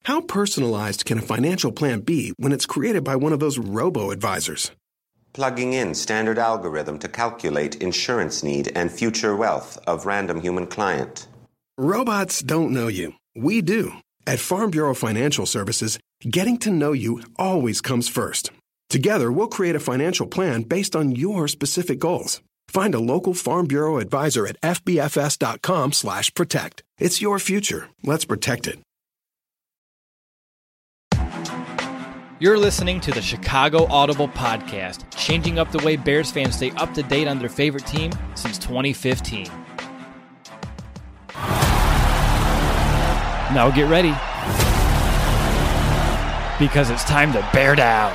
How personalized can a financial plan be when it's created by one of those robo-advisors? Plugging in standard algorithm to calculate insurance need and future wealth of random human client. Robots don't know you. We do. At Farm Bureau Financial Services, getting to know you always comes first. Together, we'll create a financial plan based on your specific goals. Find a local Farm Bureau advisor at fbfs.com/protect. It's your future. Let's protect it. You're listening to the Chicago Audible Podcast, changing up the way Bears fans stay up to date on their favorite team since 2015. Now get ready, because it's time to bear down.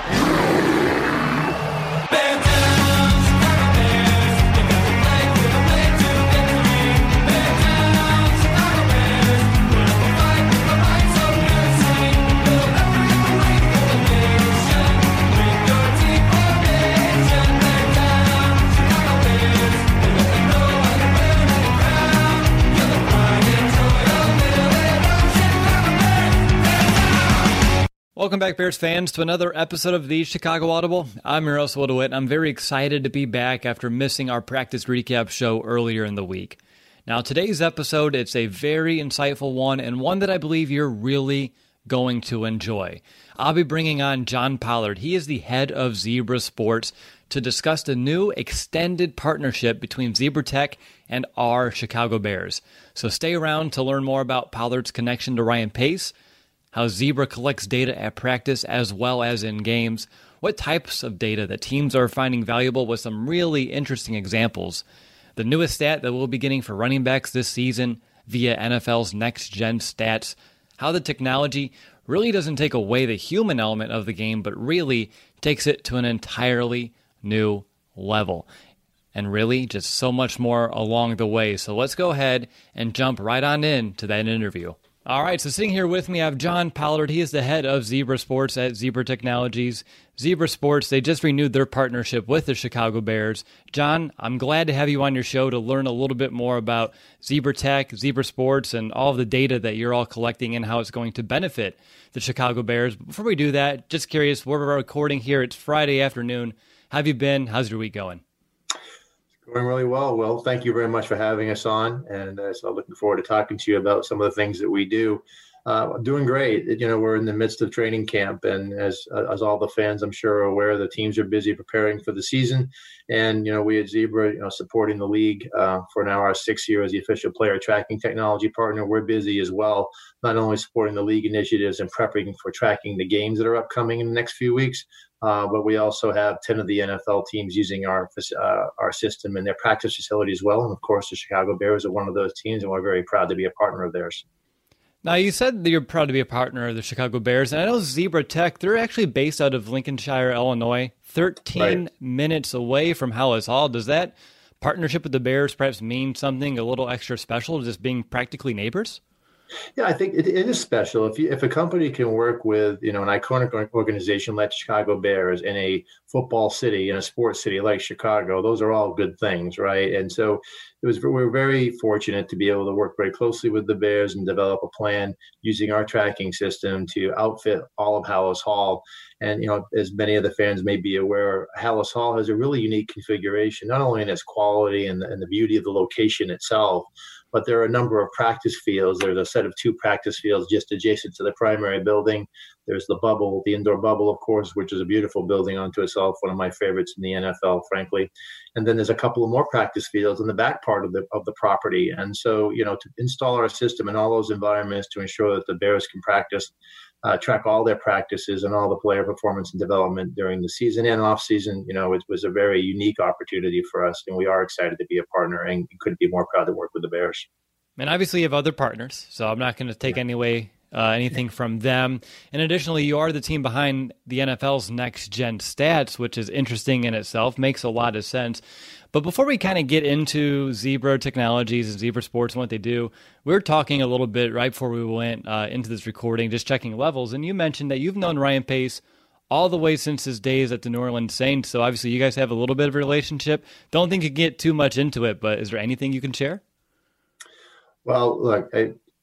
Welcome back, Bears fans, to another episode of the Chicago Audible. I'm your host, Will DeWitt, and I'm very excited to be back after missing our practice recap show earlier in the week. Now, today's episode, it's a very insightful one, and one that I believe you're really going to enjoy. I'll be bringing on John Pollard. He is the head of Zebra Sports to discuss the new extended partnership between Zebra Tech and our Chicago Bears. So stay around to learn more about Pollard's connection to Ryan Pace, how Zebra collects data at practice as well as in games, what types of data that teams are finding valuable with some really interesting examples, the newest stat that we'll be getting for running backs this season via NFL's Next Gen Stats, how the technology really doesn't take away the human element of the game, but really takes it to an entirely new level. And really, just so much more along the way. So let's go ahead and jump right on in to that interview. All right, so sitting here with me, I have John Pollard. He is the head of Zebra Sports at Zebra Technologies. Zebra Sports, they just renewed their partnership with the Chicago Bears. John, I'm glad to have you on your show to learn a little bit more about Zebra Tech, Zebra Sports, and all of the data that you're all collecting and how it's going to benefit the Chicago Bears. But before we do that, just curious, we're recording here. It's Friday afternoon. How have you been? How's your week going? Going really well. Well, thank you very much for having us on. And so looking forward to talking to you about some of the things that we do. Doing great. You know, we're in the midst of training camp. And as all the fans, I'm sure, are aware, the teams are busy preparing for the season. And, you know, we at Zebra, supporting the league for now our 6th year as the official player tracking technology partner. We're busy as well, not only supporting the league initiatives and prepping for tracking the games that are upcoming in the next few weeks, but we also have 10 of the NFL teams using our system in their practice facility as well. And, of course, the Chicago Bears are one of those teams, and we're very proud to be a partner of theirs. Now, you said that you're proud to be a partner of the Chicago Bears, and I know Zebra Tech, they're actually based out of Lincolnshire, Illinois, 13 minutes away from Hallis Hall. Does that partnership with the Bears perhaps mean something a little extra special, just being practically neighbors? Yeah, I think it is special. If a company can work with, an iconic organization like Chicago Bears in a football city, in a sports city like Chicago, those are all good things, right? And so we're very fortunate to be able to work very closely with the Bears and develop a plan using our tracking system to outfit all of Hallis Hall. And, as many of the fans may be aware, Hallis Hall has a really unique configuration, not only in its quality and the beauty of the location itself, but there are a number of practice fields. There's a set of 2 practice fields just adjacent to the primary building. There's the bubble, the indoor bubble, of course, which is a beautiful building unto itself, one of my favorites in the NFL, frankly. And then there's a couple of more practice fields in the back part of the property. And so, to install our system in all those environments to ensure that the Bears can practice, track all their practices and all the player performance and development during the season and off season, it was a very unique opportunity for us. And we are excited to be a partner and couldn't be more proud to work with the Bears. And obviously you have other partners, so I'm not going to take anything from them. And additionally, you are the team behind the NFL's Next Gen Stats, which is interesting in itself, makes a lot of sense. But before we kind of get into Zebra Technologies and Zebra Sports and what they do, we were talking a little bit right before we went into this recording, just checking levels. And you mentioned that you've known Ryan Pace all the way since his days at the New Orleans Saints. So obviously you guys have a little bit of a relationship. Don't think you can get too much into it, but is there anything you can share? Well, look,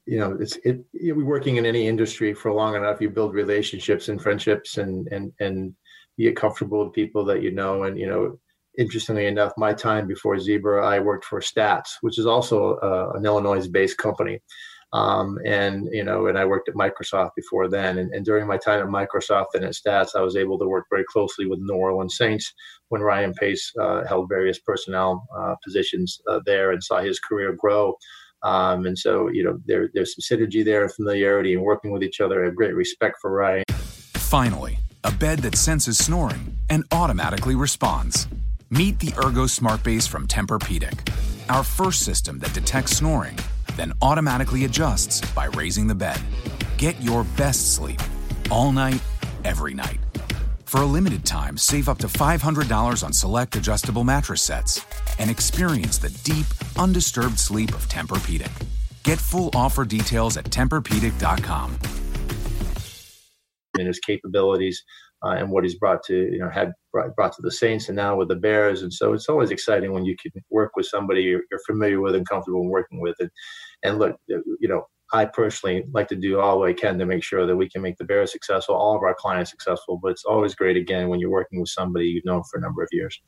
We're working in any industry for long enough. You build relationships and friendships, and you get comfortable with people that you know. And interestingly enough, my time before Zebra, I worked for Stats, which is also an Illinois-based company. And I worked at Microsoft before then. And during my time at Microsoft and at Stats, I was able to work very closely with New Orleans Saints when Ryan Pace held various personnel positions there, and saw his career grow. And so, there's some synergy there and familiarity and working with each other. I have great respect for Ryan. Finally, a bed that senses snoring and automatically responds. Meet the Ergo Smart Base from Tempur-Pedic, our first system that detects snoring, then automatically adjusts by raising the bed. Get your best sleep all night, every night. For a limited time, save up to $500 on select adjustable mattress sets and experience the deep, undisturbed sleep of Tempur-Pedic. Get full offer details at TempurPedic.com. And his capabilities and what he's brought to, brought to the Saints and now with the Bears. And so it's always exciting when you can work with somebody you're familiar with and comfortable working with. And look, I personally like to do all I can to make sure that we can make the Bears successful, all of our clients successful. But it's always great, again, when you're working with somebody you've known for a number of years.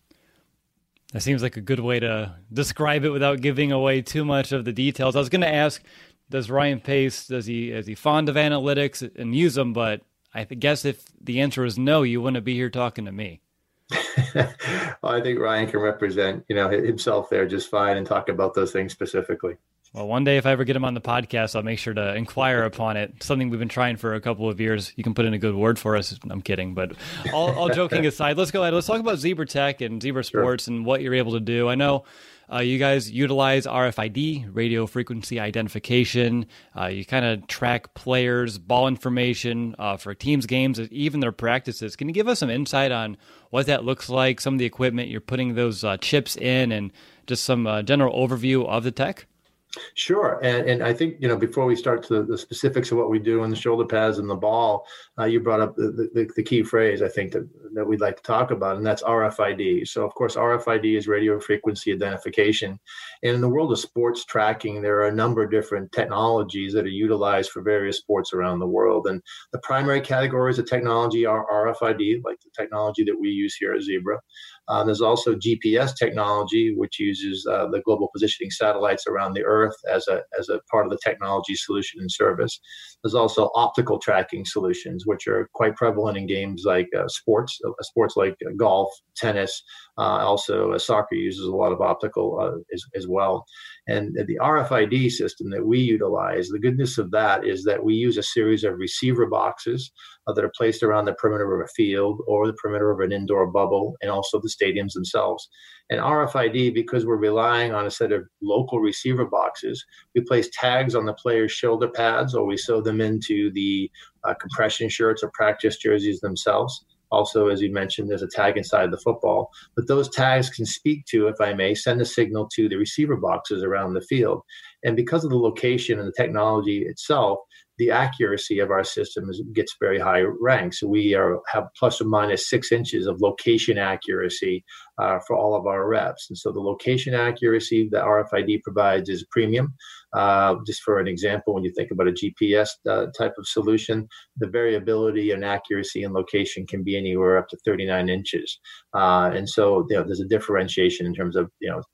That seems like a good way to describe it without giving away too much of the details. I was going to ask, does Ryan Pace, is he fond of analytics and use them? But I guess if the answer is no, you wouldn't be here talking to me. Well, I think Ryan can represent, himself there just fine and talk about those things specifically. Well, one day if I ever get him on the podcast, I'll make sure to inquire upon it. Something we've been trying for a couple of years. You can put in a good word for us. I'm kidding, but all joking aside, let's go ahead. Let's talk about Zebra Tech and Zebra Sports and what you're able to do. I know you guys utilize RFID, radio frequency identification. You kind of track players, ball information for teams' games, even their practices. Can you give us some insight on what that looks like, some of the equipment you're putting those chips in, and just some general overview of the tech? Sure. And I think, before we start to the specifics of what we do in the shoulder pads and the ball, you brought up the key phrase, I think, that we'd like to talk about, and that's RFID. So, of course, RFID is radio frequency identification. And in the world of sports tracking, there are a number of different technologies that are utilized for various sports around the world. And the primary categories of technology are RFID, like the technology that we use here at Zebra. There's also GPS technology, which uses the global positioning satellites around the Earth as a part of the technology solution and service. There's also optical tracking solutions, which are quite prevalent in games like sports like golf, tennis. Also, soccer uses a lot of optical as well. And the RFID system that we utilize, the goodness of that is that we use a series of receiver boxes that are placed around the perimeter of a field or the perimeter of an indoor bubble, and also the stadiums themselves. And RFID, because we're relying on a set of local receiver boxes, we place tags on the players' shoulder pads, or we sew them into the compression shirts or practice jerseys themselves. Also, as you mentioned, there's a tag inside the football. But those tags can speak to, if I may, send a signal to the receiver boxes around the field. And because of the location and the technology itself, the accuracy of our system gets very high ranks. So we have plus or minus 6 inches of location accuracy for all of our reps. And so the location accuracy that RFID provides is premium. Just for an example, when you think about a GPS type of solution, the variability and accuracy and location can be anywhere up to 39 inches. And so there's a differentiation in terms of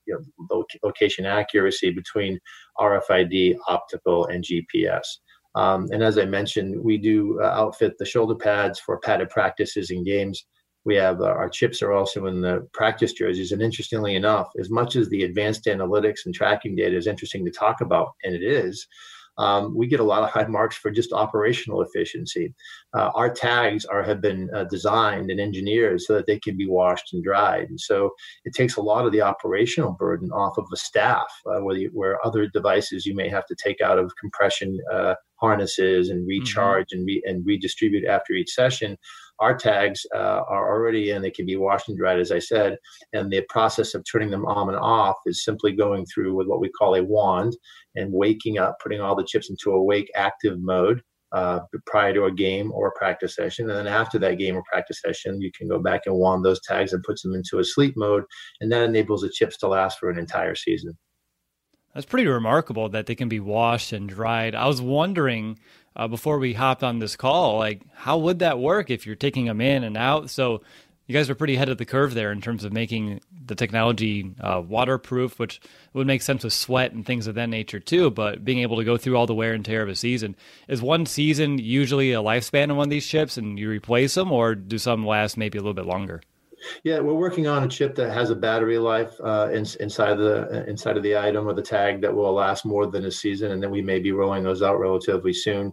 location accuracy between RFID, optical, and GPS. And as I mentioned, we do outfit the shoulder pads for padded practices and games. We have our chips are also in the practice jerseys. And interestingly enough, as much as the advanced analytics and tracking data is interesting to talk about, and it is, we get a lot of high marks for just operational efficiency. Our tags have been designed and engineered so that they can be washed and dried. And so it takes a lot of the operational burden off of the staff, where other devices you may have to take out of compression harnesses and recharge and redistribute after each session. Our tags are already in. They can be washed and dried, as I said, and the process of turning them on and off is simply going through with what we call a wand and waking up, putting all the chips into a wake active mode prior to a game or a practice session. And then after that game or practice session, you can go back and wand those tags and put them into a sleep mode, and that enables the chips to last for an entire season. That's pretty remarkable that they can be washed and dried. I was wondering before we hopped on this call, like, how would that work if you're taking them in and out? So you guys are pretty ahead of the curve there in terms of making the technology waterproof, which would make sense with sweat and things of that nature too, but being able to go through all the wear and tear of a season. Is one season usually a lifespan of one of these chips and you replace them, or do some last maybe a little bit longer? Yeah, we're working on a chip that has a battery life inside of the item or the tag that will last more than a season, and then we may be rolling those out relatively soon.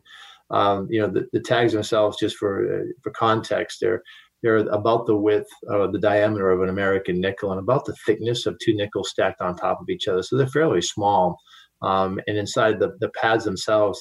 The tags themselves, just for context, they're about the width or the diameter of an American nickel and about the thickness of two nickels stacked on top of each other. So they're fairly small. And inside the pads themselves,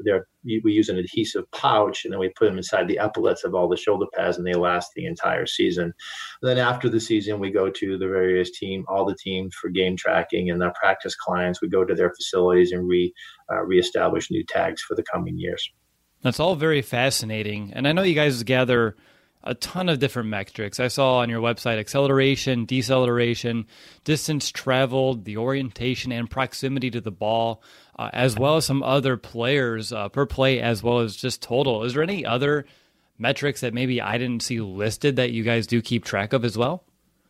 we use an adhesive pouch, and then we put them inside the epaulets of all the shoulder pads, and they last the entire season. And then after the season, we go to the various all the teams for game tracking, and our practice clients, we go to their facilities and reestablish new tags for the coming years. That's all very fascinating. And I know you guys gather a ton of different metrics. I saw on your website acceleration, deceleration, distance traveled, the orientation and proximity to the ball, as well as some other players per play, as well as just total. Is there any other metrics that maybe I didn't see listed that you guys do keep track of as well?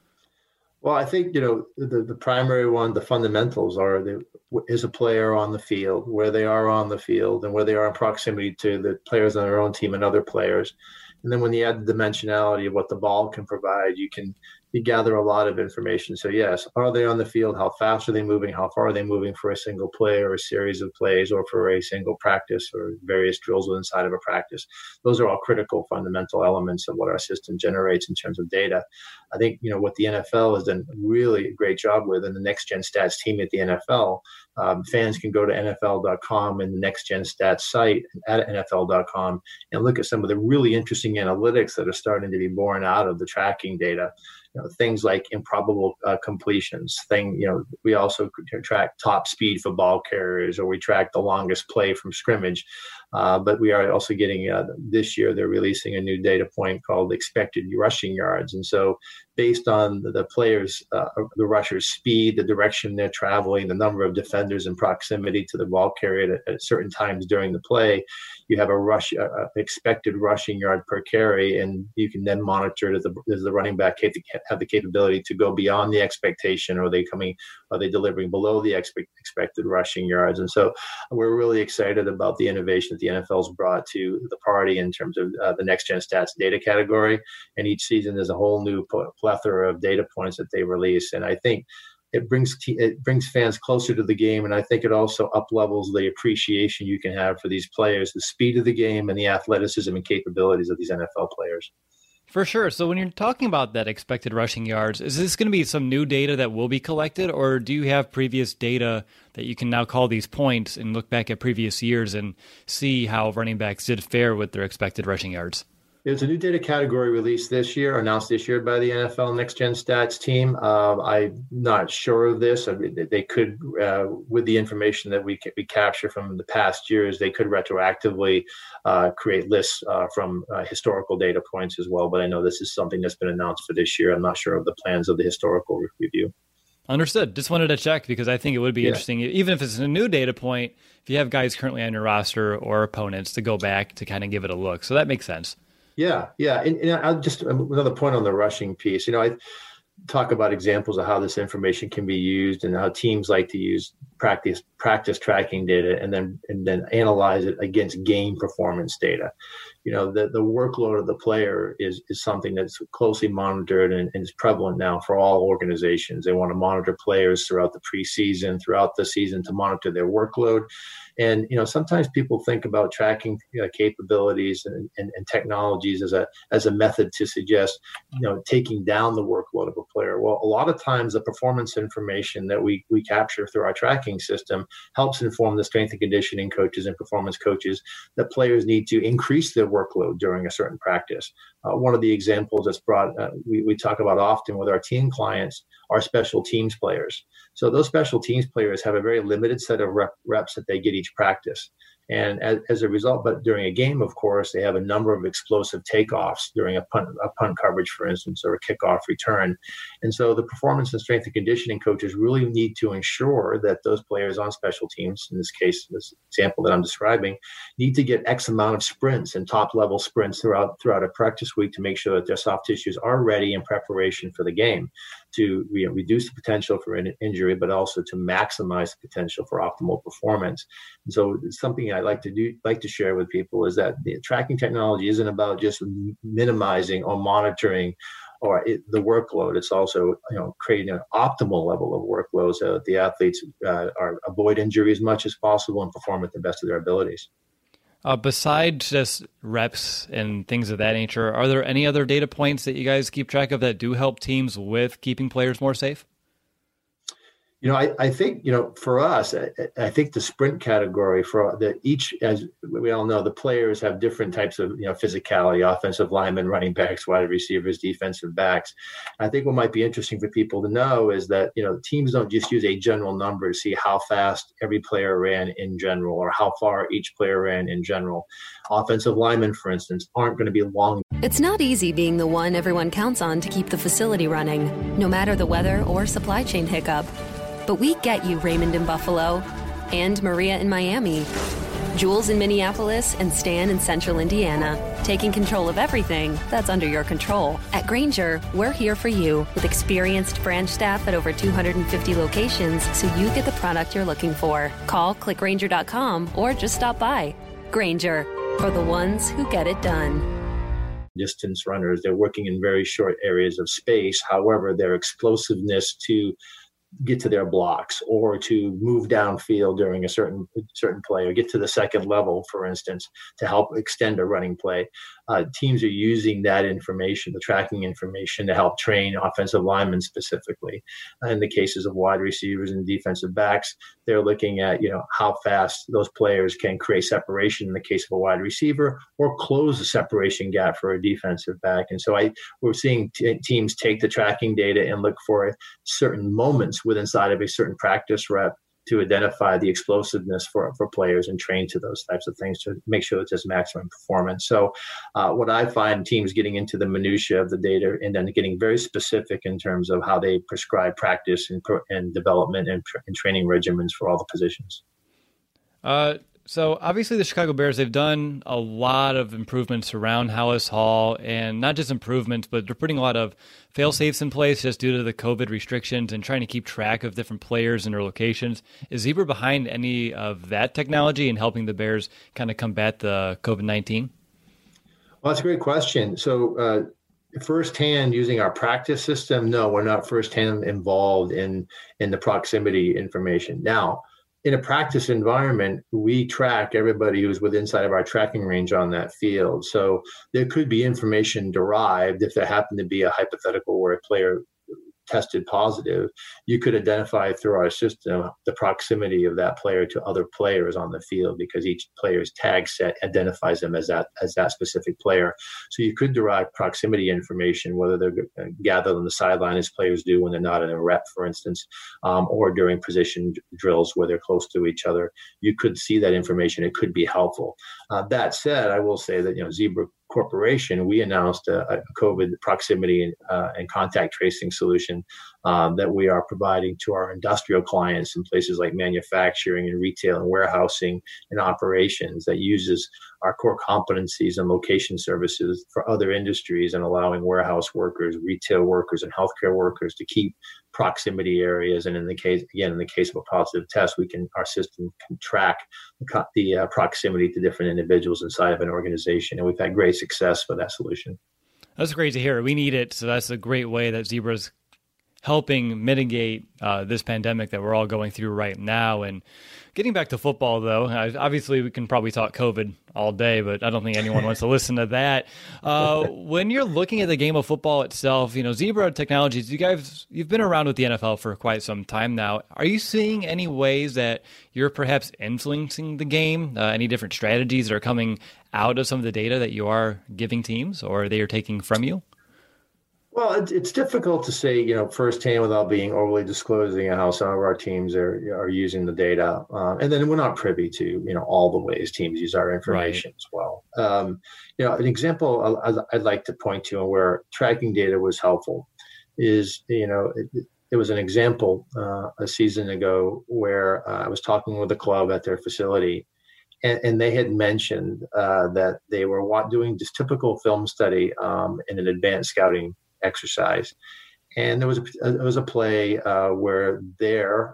Well, I think, the primary one, the fundamentals are is a player on the field, where they are on the field, and where they are in proximity to the players on their own team and other players. And then when you add the dimensionality of what the ball can provide, you gather a lot of information. So yes, are they on the field? How fast are they moving? How far are they moving for a single play or a series of plays, or for a single practice or various drills inside of a practice? Those are all critical fundamental elements of what our system generates in terms of data. I think, what the NFL has done really a great job with, and the Next Gen Stats team at the NFL, fans can go to NFL.com and the Next Gen Stats site at NFL.com and look at some of the really interesting analytics that are starting to be born out of the tracking data. Things like improbable completions. We also track top speed for ball carriers, or we track the longest play from scrimmage. But we are also getting this year, they're releasing a new data point called expected rushing yards. And so based on the players, the rushers' speed, the direction they're traveling, the number of defenders in proximity to the ball carrier at certain times during the play, you have expected rushing yard per carry, and you can then monitor does the running back have the capability to go beyond the expectation, or are they delivering below the expected rushing yards? And so we're really excited about the innovation that the NFL's brought to the party in terms of the Next Gen Stats data category. And each season there's a whole new plethora of data points that they release. And I think it brings fans closer to the game, and I think it also up-levels the appreciation you can have for these players, the speed of the game, and the athleticism and capabilities of these NFL players. For sure. So when you're talking about that expected rushing yards, is this going to be some new data that will be collected, or do you have previous data that you can now call these points and look back at previous years and see how running backs did fare with their expected rushing yards? There's a new data category released announced this year by the NFL Next Gen Stats team. I'm not sure of this. I mean, they could, with the information that we capture from the past years, they could retroactively create lists from historical data points as well. But I know this is something that's been announced for this year. I'm not sure of the plans of the historical review. Understood. Just wanted to check because I think it would be interesting, even if it's a new data point, if you have guys currently on your roster or opponents to go back to kind of give it a look. So that makes sense. Yeah. And I'll just another point on the rushing piece. I talk about examples of how this information can be used and how teams like to use practice tracking data and then analyze it against game performance data. The workload of the player is something that's closely monitored and is prevalent now for all organizations. They want to monitor players throughout the preseason, throughout the season, to monitor their workload. And, sometimes people think about tracking capabilities and technologies as a method to suggest, taking down the workload of a player. Well, a lot of times the performance information that we capture through our tracking system helps inform the strength and conditioning coaches and performance coaches that players need to increase their workload during a certain practice. One of the examples that's we talk about often with our team clients are special teams players. So those special teams players have a very limited set of reps that they get each practice. And as a result, but during a game, of course, they have a number of explosive takeoffs during a punt coverage, for instance, or a kickoff return. And so the performance and strength and conditioning coaches really need to ensure that those players on special teams, in this case, this example that I'm describing, need to get X amount of sprints and top level sprints throughout a practice week to make sure that their soft tissues are ready in preparation for the game, to reduce the potential for an injury, but also to maximize the potential for optimal performance. And so it's something I like to share with people is that the tracking technology isn't about just minimizing or monitoring or the workload. It's also creating an optimal level of workload so that the athletes avoid injury as much as possible and perform at the best of their abilities. Besides just reps and things of that nature, are there any other data points that you guys keep track of that do help teams with keeping players more safe? I think, for us, I think the sprint category as we all know, the players have different types of, physicality, offensive linemen, running backs, wide receivers, defensive backs. I think what might be interesting for people to know is that, teams don't just use a general number to see how fast every player ran in general or how far each player ran in general. Offensive linemen, for instance, aren't going to be long. It's not easy being the one everyone counts on to keep the facility running, no matter the weather or supply chain hiccup. But we get you, Raymond in Buffalo, and Maria in Miami, Jules in Minneapolis, and Stan in Central Indiana, taking control of everything that's under your control. At Grainger, we're here for you with experienced branch staff at over 250 locations so you get the product you're looking for. Call, click Grainger.com, or just stop by. Grainger, for the ones who get it done. Distance runners, they're working in very short areas of space. However, their explosiveness to get to their blocks or to move downfield during a certain play or get to the second level, for instance, to help extend a running play. Teams are using that information, the tracking information, to help train offensive linemen specifically. In the cases of wide receivers and defensive backs, they're looking at, how fast those players can create separation in the case of a wide receiver or close the separation gap for a defensive back. And so we're seeing teams take the tracking data and look for certain moments inside of a certain practice rep to identify the explosiveness for players and train to those types of things to make sure that there's maximum performance. So what I find teams getting into the minutia of the data and then getting very specific in terms of how they prescribe practice and development and training regimens for all the positions. So obviously the Chicago Bears, they've done a lot of improvements around Hallis Hall, and not just improvements, but they're putting a lot of fail-safes in place just due to the COVID restrictions and trying to keep track of different players and their locations. Is Zebra behind any of that technology and helping the Bears kind of combat the COVID-19? Well, that's a great question. So firsthand using our practice system, no, we're not firsthand involved in the proximity information. Now, in a practice environment, we track everybody who's within inside of our tracking range on that field. So there could be information derived if there happened to be a hypothetical where a player tested positive. You could identify through our system the proximity of that player to other players on the field because each player's tag set identifies them as that specific player. So you could derive proximity information, whether they're gathered on the sideline as players do when they're not in a rep, for instance, or during position drills where they're close to each other. You could see that information. It could be helpful. That said, I will say that Zebra Corporation, we announced a COVID proximity and contact tracing solution that we are providing to our industrial clients in places like manufacturing and retail and warehousing and operations that uses our core competencies and location services for other industries and allowing warehouse workers, retail workers, and healthcare workers to keep proximity areas. And in the case of a positive test, our system can track the proximity to different individuals inside of an organization. And we've had great success with that solution. That's great to hear. We need it. So that's a great way that Zebra's helping mitigate this pandemic that we're all going through right now. And getting back to football, though, obviously we can probably talk COVID all day, but I don't think anyone wants to listen to that. When you're looking at the game of football itself, Zebra Technologies, you've been around with the NFL for quite some time now. Are you seeing any ways that you're perhaps influencing the game? Any different strategies that are coming out of some of the data that you are giving teams or they are taking from you? Well, it's difficult to say, firsthand without being overly disclosing of how some of our teams are using the data, and then we're not privy to all the ways teams use our information as well. An example I'd like to point to where tracking data was helpful is there was an example a season ago where I was talking with a club at their facility. And they had mentioned that they were doing this typical film study in an advanced scouting exercise. And there was a play where their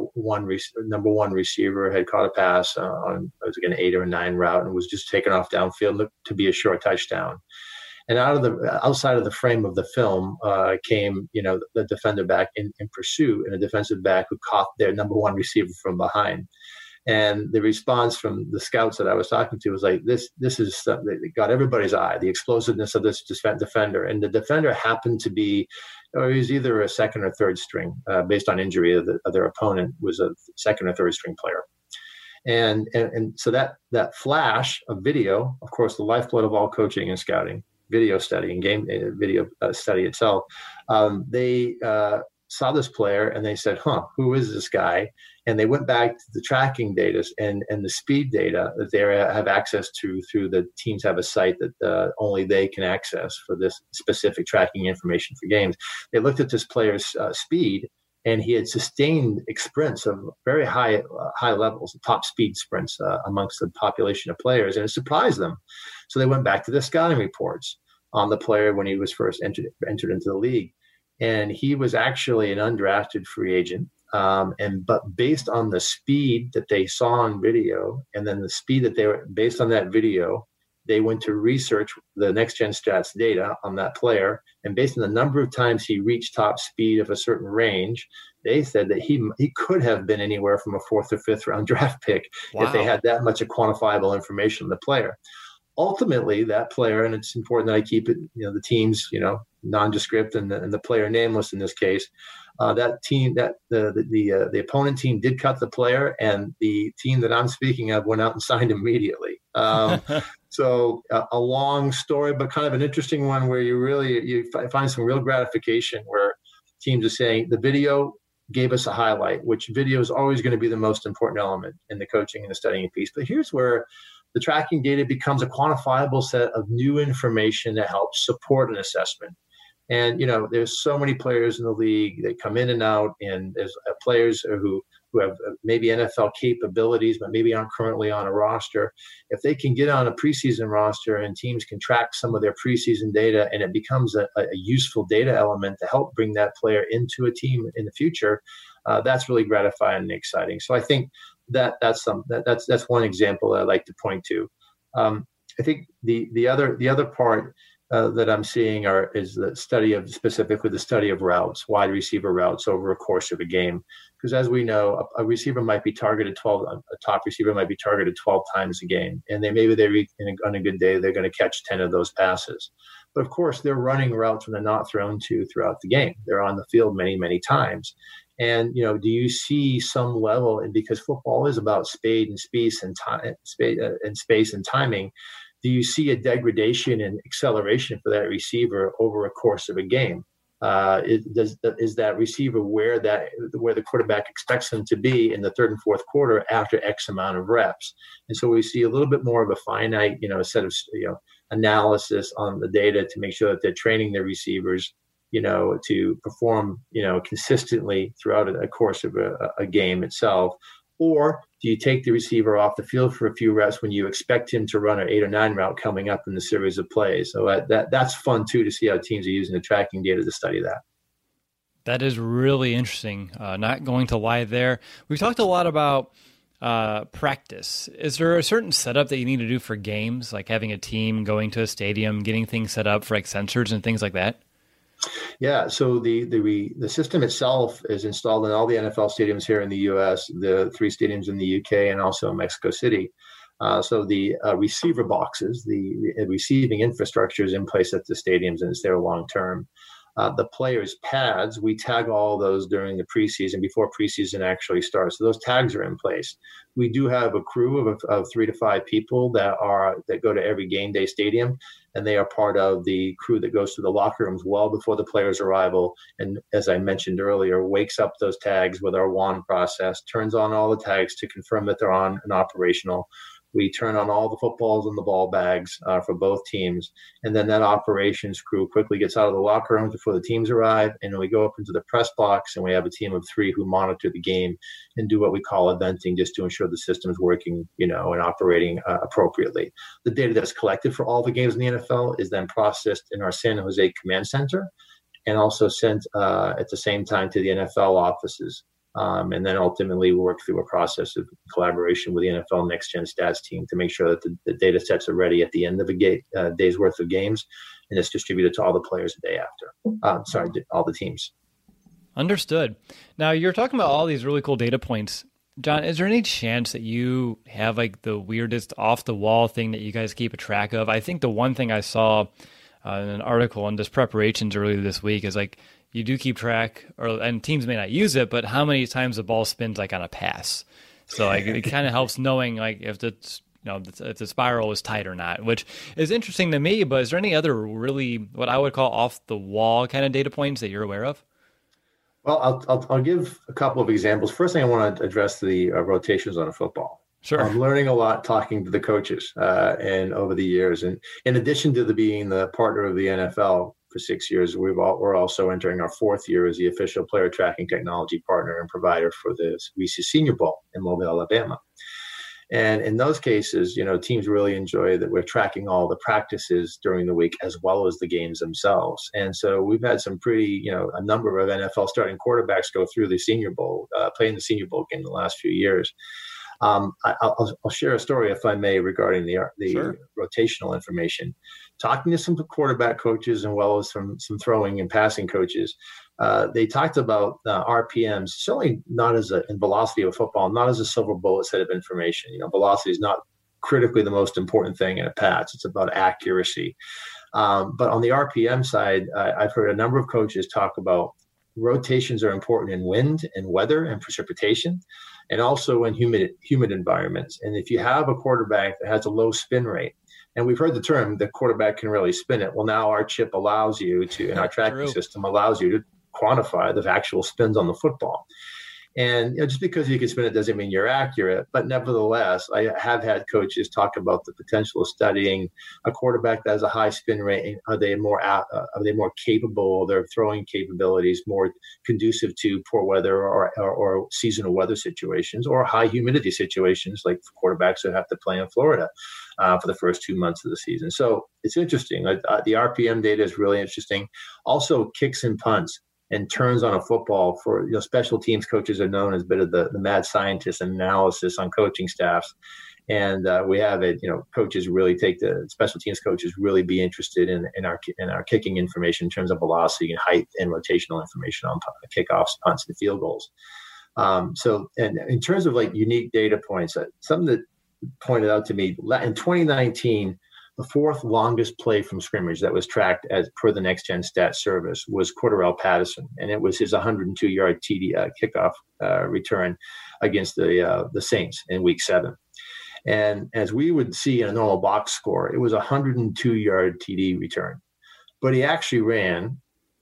number one receiver had caught a pass on, it was like an 8 or 9 route and was just taken off downfield to be a short touchdown. And outside of the frame of the film came, the defender back in pursuit and a defensive back who caught their number one receiver from behind. And the response from the scouts that I was talking to was like, this is it got everybody's eye, the explosiveness of this defender. And the defender happened to be, or he was either a second or third string, based on injury of their opponent, was a second or third string player. And so that flash of video, of course, the lifeblood of all coaching and scouting, video study and game video study itself, they saw this player and they said, who is this guy? And they went back to the tracking data and the speed data that they have access to through the teams have a site that only they can access for this specific tracking information for games. They looked at this player's speed, and he had sustained sprints of very high levels, top speed sprints amongst the population of players, and it surprised them. So they went back to the scouting reports on the player when he was first entered into the league. And he was actually an undrafted free agent. But based on the speed that they saw on video, and then the speed that they were based on that video, they went to research the Next Gen Stats data on that player. And based on the number of times he reached top speed of a certain range, they said that he could have been anywhere from a 4th or 5th round draft pick. Wow. If they had that much of quantifiable information on the player. Ultimately, that player, and it's important that I keep it, the teams, nondescript and the player nameless in this case, that team, that the opponent team did cut the player, and the team that I'm speaking of went out and signed immediately. So a long story, but kind of an interesting one where you find some real gratification where teams are saying the video gave us a highlight, which video is always going to be the most important element in the coaching and the studying piece. But here's where the tracking data becomes a quantifiable set of new information that helps support an assessment. And, there's so many players in the league that come in and out, and there's players who have maybe NFL capabilities, but maybe aren't currently on a roster. If they can get on a preseason roster and teams can track some of their preseason data, and it becomes a useful data element to help bring that player into a team in the future, that's really gratifying and exciting. So I think that's one example that I like to point to. I think the other part that I'm seeing is specifically the study of routes, wide receiver routes over a course of a game. Because as we know, a receiver might be targeted a top receiver might be targeted 12 times a game, and on a good day they're going to catch 10 of those passes. But of course, they're running routes when they're not thrown to throughout the game. They're on the field many, many times. And do you see some level? And because football is about speed and space and timing, do you see a degradation in acceleration for that receiver over a course of a game? Is that receiver where the quarterback expects them to be in the third and fourth quarter after X amount of reps? And so we see a little bit more of a finite, set of analysis on the data to make sure that they're training their receivers, to perform, consistently throughout a course of a game itself. Or do you take the receiver off the field for a few reps when you expect him to run an 8 or 9 route coming up in the series of plays? So that's fun, too, to see how teams are using the tracking data to study that. That is really interesting. Not going to lie there. We've talked a lot about practice. Is there a certain setup that you need to do for games, like having a team going to a stadium, getting things set up for like sensors and things like that? Yeah, so the system itself is installed in all the NFL stadiums here in the U.S., the 3 stadiums in the U.K., and also Mexico City. So the receiver boxes, the receiving infrastructure is in place at the stadiums, and it's there long term. The players' pads, we tag all those during the preseason before preseason actually starts. So those tags are in place. We do have a crew of 3 to 5 people that go to every game day stadium, and they are part of the crew that goes to the locker rooms well before the players' arrival. And as I mentioned earlier, wakes up those tags with our WAN process, turns on all the tags to confirm that they're on and operational. We turn on all the footballs and the ball bags for both teams. And then that operations crew quickly gets out of the locker rooms before the teams arrive. And then we go up into the press box, and we have a team of 3 who monitor the game and do what we call eventing, just to ensure the system is working, and operating appropriately. The data that's collected for all the games in the NFL is then processed in our San Jose command center and also sent at the same time to the NFL offices. And then ultimately we work through a process of collaboration with the NFL Next Gen Stats team to make sure that the data sets are ready at the end of a day's worth of games, and it's distributed to all the players the day after. All the teams. Understood. Now, you're talking about all these really cool data points. John, is there any chance that you have like the weirdest off-the-wall thing that you guys keep a track of? I think the one thing I saw in an article on just preparations earlier this week is like, you do keep track, and teams may not use it, but how many times the ball spins like on a pass. So like it kind of helps knowing like if if the spiral is tight or not, which is interesting to me. But is there any other really what I would call off the wall kind of data points that you're aware of? Well, I'll give a couple of examples. First thing I want to address the rotations on a football. Sure. I'm learning a lot talking to the coaches and over the years, and in addition to being the partner of the NFL for 6 years, we're also entering our 4th year as the official player tracking technology partner and provider for the Reese's Senior Bowl in Mobile, Alabama. And in those cases, teams really enjoy that we're tracking all the practices during the week as well as the games themselves. And so we've had some a number of NFL starting quarterbacks go through the Senior Bowl, play in the Senior Bowl game in the last few years. I'll share a story, if I may, regarding the Sure. rotational information. Talking to some quarterback coaches and well as some throwing and passing coaches, they talked about RPMs, certainly not in velocity of a football, not as a silver bullet set of information. Velocity is not critically the most important thing in a pass. It's about accuracy. But on the RPM side, I've heard a number of coaches talk about rotations are important in wind and weather and precipitation, and also in humid environments. And if you have a quarterback that has a low spin rate, and we've heard the term, the quarterback can really spin it. Well, now our chip allows you to, and our tracking system allows you to quantify the actual spins on the football. And just because you can spin it doesn't mean you're accurate. But nevertheless, I have had coaches talk about the potential of studying a quarterback that has a high spin rate. Are they more capable? Their throwing capabilities more conducive to poor weather or seasonal weather situations or high humidity situations, like quarterbacks that have to play in Florida for the first 2 months of the season. So it's interesting. The RPM data is really interesting. Also, kicks and punts and turns on a football for special teams coaches are known as a bit of the mad scientists and analysis on coaching staffs. And we have it, coaches really take the special teams coaches really be interested in our kicking information in terms of velocity and height and rotational information on kickoffs, punts, and field goals. So, and in terms of like unique data points, something that pointed out to me in 2019, the 4th longest play from scrimmage that was tracked as per the Next Gen Stats service was Cordarrelle Patterson, and it was his 102-yard TD kickoff return against the Saints in Week 7. And as we would see in a normal box score, it was a 102-yard TD return, but he actually ran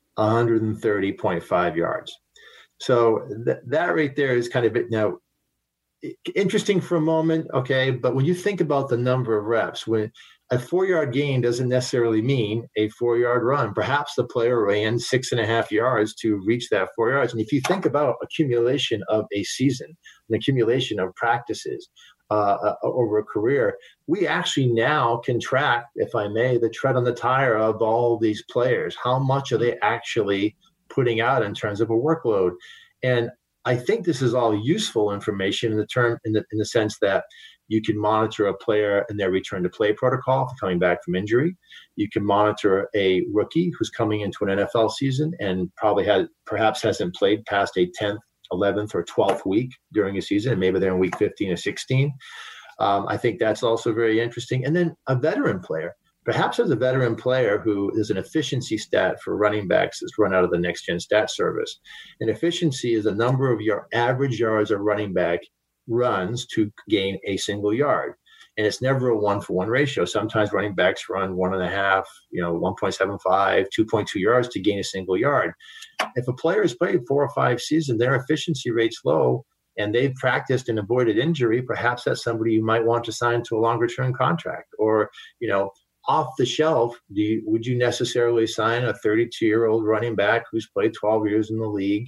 130.5 yards. So that right there is kind of it. Now, interesting for a moment, okay, but when you think about the number of reps, when a 4-yard gain doesn't necessarily mean a 4-yard run. Perhaps the player ran 6.5 yards to reach that 4 yards. And if you think about accumulation of a season, an accumulation of practices over a career, we actually now can track, if I may, the tread on the tire of all these players. How much are they actually putting out in terms of a workload? And I think this is all useful information in the sense that you can monitor a player in their return to play protocol for coming back from injury. You can monitor a rookie who's coming into an NFL season and perhaps hasn't played past a 10th, 11th, or 12th week during a season, and maybe they're in week 15 or 16. I think that's also very interesting. And then a veteran player. perhaps as a veteran player who is an efficiency stat for running backs that's run out of the Next Gen Stat Service. And efficiency is the number of your average yards a running back runs to gain a single yard. And it's never a 1-for-1 ratio. Sometimes running backs run 1.5, 1.75, 2.2 yards to gain a single yard. If a player has played 4 or 5 seasons, their efficiency rate's low, and they've practiced and avoided injury, perhaps that's somebody you might want to sign to a longer-term contract. Or, off the shelf, would you necessarily sign a 32-year-old running back who's played 12 years in the league,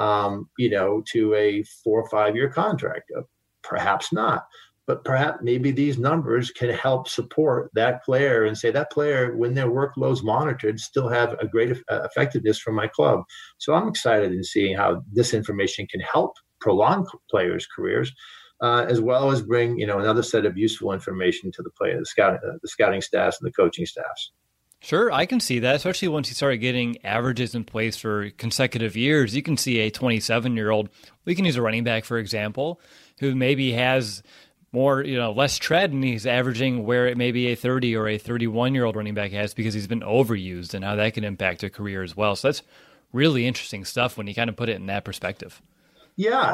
to a 4 or 5-year contract? Perhaps not. But perhaps maybe these numbers can help support that player and say that player, when their workload's monitored, still have a great effectiveness from my club. So I'm excited in seeing how this information can help prolong players' careers, as well as bring another set of useful information to the player, the scouting staffs and the coaching staffs. Sure, I can see that, especially once you start getting averages in place for consecutive years. You can see a 27-year-old, we can use a running back, for example, who maybe has more, less tread, and he's averaging where it maybe a 30 or a 31-year-old running back has because he's been overused, and how that can impact a career as well. So that's really interesting stuff when you kind of put it in that perspective. Yeah,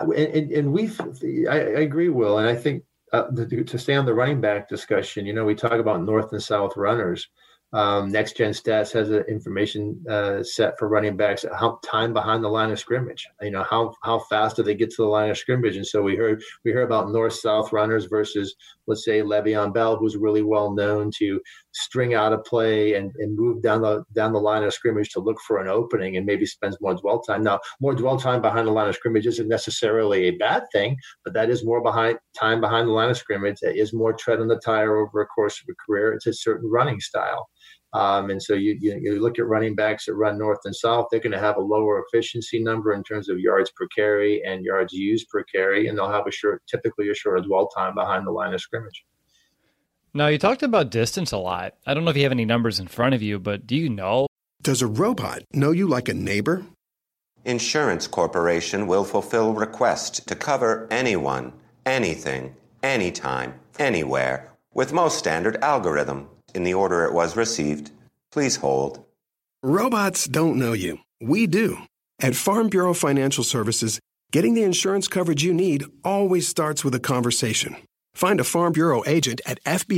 and I agree, Will, and I think to stay on the running back discussion, we talk about north and south runners. Next Gen Stats has an information set for running backs, how time behind the line of scrimmage. How fast do they get to the line of scrimmage? And so we heard about north-south runners versus, let's say, Le'Veon Bell, who's really well known to string out a play and move down the line of scrimmage to look for an opening, and maybe spends more dwell time. Now, more dwell time behind the line of scrimmage isn't necessarily a bad thing, but that is more time behind the line of scrimmage. That is more tread on the tire over a course of a career. It's a certain running style. And so you look at running backs that run north and south, they're going to have a lower efficiency number in terms of yards per carry and yards used per carry, and they'll have typically a shorter dwell time behind the line of scrimmage. Now, you talked about distance a lot. I don't know if you have any numbers in front of you, but do you know? Does a robot know you like a neighbor? Insurance Corporation will fulfill requests to cover anyone, anything, anytime, anywhere, with most standard algorithm. In the order it was received. Please hold. Robots don't know you. We do. At Farm Bureau Financial Services, getting the insurance coverage you need always starts with a conversation. Find a Farm Bureau agent at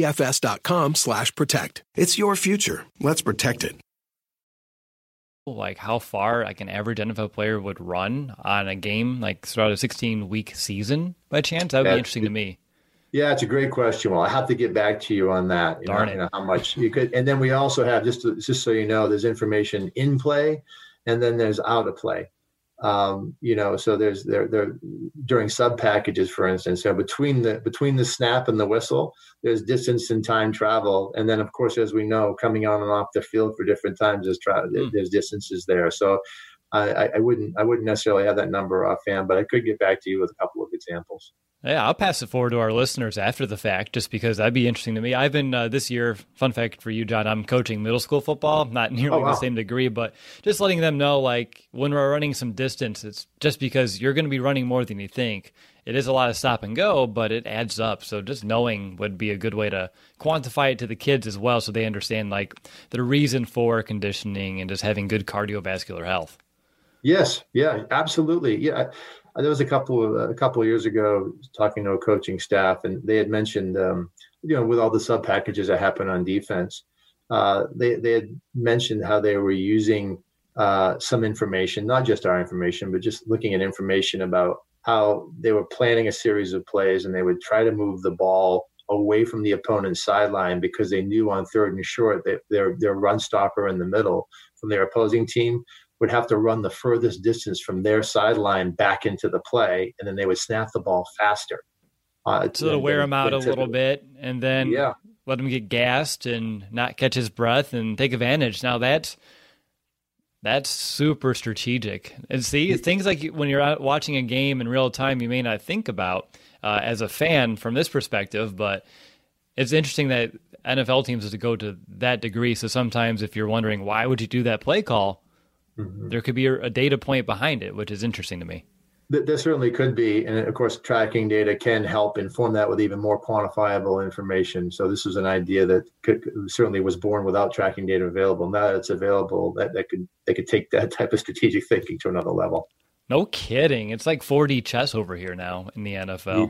fbfs.com/protect. It's your future. Let's protect it. Like how far an average NFL player would run on a game, throughout a 16-week season, by chance? That would be interesting to me. Yeah, it's a great question. Well, I have to get back to you on that. How much you could, and then we also have just so you know, there's information in play, and then there's out of play. So there's there during sub packages, for instance. So between the snap and the whistle, there's distance and time travel, and then of course, as we know, coming on and off the field for different times, there's distances there. So I wouldn't necessarily have that number offhand, but I could get back to you with a couple of examples. Yeah, I'll pass it forward to our listeners after the fact, just because that'd be interesting to me. I've been, this year, fun fact for you, John, I'm coaching middle school football, not nearly the same degree, but just letting them know, when we're running some distance, it's just because you're going to be running more than you think. It is a lot of stop and go, but it adds up. So just knowing would be a good way to quantify it to the kids as well, so they understand, the reason for conditioning and just having good cardiovascular health. Yes. Yeah, absolutely. Yeah. There was a couple of years ago talking to a coaching staff, and they had mentioned, with all the sub packages that happen on defense, they had mentioned how they were using some information, not just our information, but just looking at information about how they were planning a series of plays, and they would try to move the ball away from the opponent's sideline because they knew on third and short that their run stopper in the middle from their opposing team would have to run the furthest distance from their sideline back into the play, and then they would snap the ball faster. So to wear him out a little bit, and then let him get gassed and not catch his breath and take advantage. Now that's super strategic. And see, things like when you're out watching a game in real time, you may not think about as a fan from this perspective, but it's interesting that NFL teams have to go to that degree. So sometimes if you're wondering, why would you do that play call? Mm-hmm. There could be a data point behind it, which is interesting to me. There certainly could be. And of course, tracking data can help inform that with even more quantifiable information. So this is an idea that certainly was born without tracking data available. Now that it's available, they could take that type of strategic thinking to another level. No kidding. It's like 4D chess over here now in the NFL.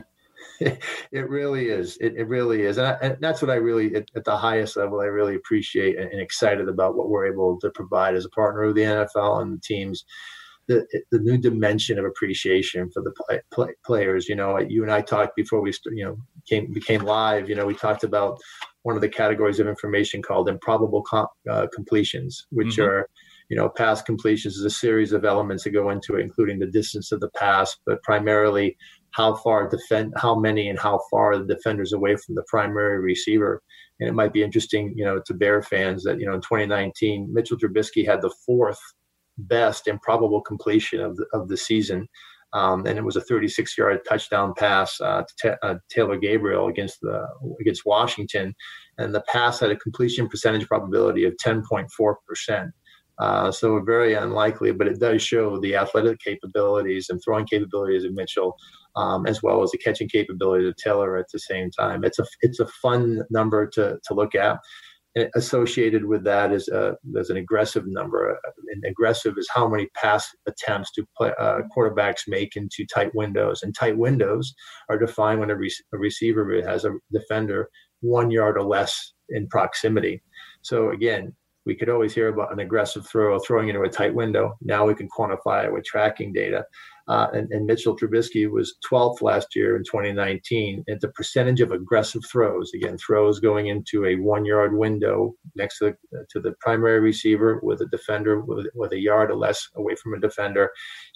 It really is. It really is. And that's what I really, at the highest level, I really appreciate and excited about what we're able to provide as a partner of the NFL and the teams. The new dimension of appreciation for the players. You know, you and I talked before we became live. You know, we talked about one of the categories of information called improbable completions, which are, pass completions is a series of elements that go into it, including the distance of the pass, but primarily how many and how far the defender's away from the primary receiver. And it might be interesting, to Bear fans that, in 2019, Mitchell Trubisky had the fourth best improbable completion of the season. And it was a 36-yard touchdown pass to Taylor Gabriel against Washington. And the pass had a completion percentage probability of 10.4%. So very unlikely, but it does show the athletic capabilities and throwing capabilities of Mitchell, as well as the catching capabilities of Taylor at the same time. It's a fun number to look at. And associated with that is there's an aggressive number. And aggressive is how many pass attempts do quarterbacks make into tight windows. And tight windows are defined when a receiver has a defender 1 yard or less in proximity. So again, we could always hear about an aggressive throw, throwing into a tight window. Now we can quantify it with tracking data. And Mitchell Trubisky was 12th last year in 2019 at the percentage of aggressive throws. Again, throws going into a 1 yard window next to the primary receiver with a defender with a yard or less away from a defender.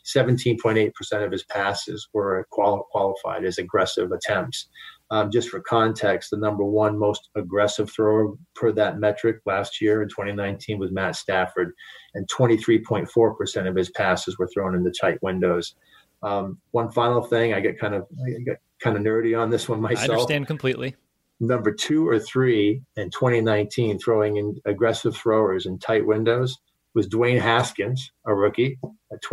17.8% of his passes were qualified as aggressive attempts. Just for context, the number one most aggressive thrower per that metric last year in 2019 was Matt Stafford, and 23.4% of his passes were thrown into tight windows. One final thing, I get kind of nerdy on this one myself. I understand completely. Number 2 or 3 in 2019 throwing in aggressive throwers in tight windows was Dwayne Haskins, a rookie, at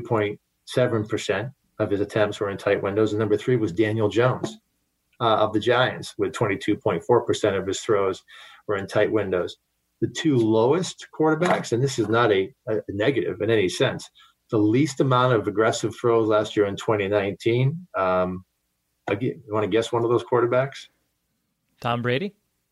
22.7% of his attempts were in tight windows. And number 3 was Daniel Jones of the Giants, with 22.4% of his throws were in tight windows. The two lowest quarterbacks, and this is not a negative in any sense, the least amount of aggressive throws last year in 2019. You want to guess one of those quarterbacks? Tom Brady?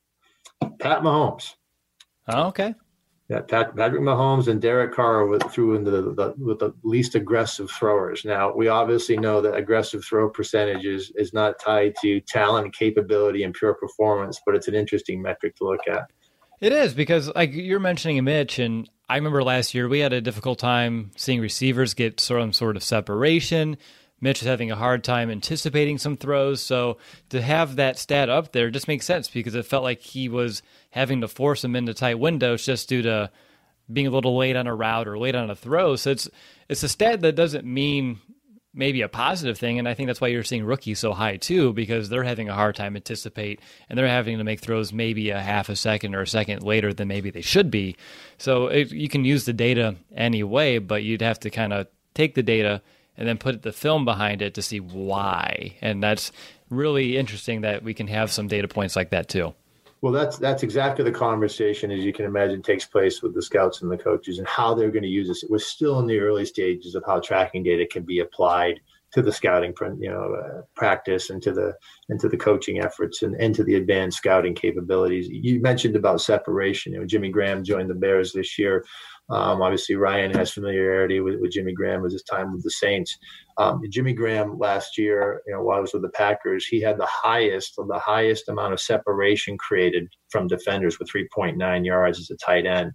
Pat Mahomes. Oh, okay. Yeah, Patrick Mahomes and Derek Carr threw into the least aggressive throwers. Now, we obviously know that aggressive throw percentages is not tied to talent, capability, and pure performance, but it's an interesting metric to look at. It is, because like you're mentioning Mitch, and I remember last year we had a difficult time seeing receivers get some sort of separation. Mitch is having a hard time anticipating some throws. So to have that stat up there just makes sense, because it felt like he was having to force them into tight windows just due to being a little late on a route or late on a throw. So it's a stat that doesn't mean maybe a positive thing. And I think that's why you're seeing rookies so high too, because they're having a hard time anticipate and they're having to make throws maybe a half a second or a second later than maybe they should be. So you can use the data anyway, but you'd have to kind of take the data and then put the film behind it to see why. And that's really interesting that we can have some data points like that too. Well, that's exactly the conversation, as you can imagine, takes place with the scouts and the coaches and how they're going to use this. We're still in the early stages of how tracking data can be applied to the scouting, practice and to the coaching efforts and to the advanced scouting capabilities. You mentioned about separation. Jimmy Graham joined the Bears this year. Obviously, Ryan has familiarity with Jimmy Graham with his time with the Saints. Jimmy Graham last year, while I was with the Packers, he had the highest amount of separation created from defenders with 3.9 yards as a tight end.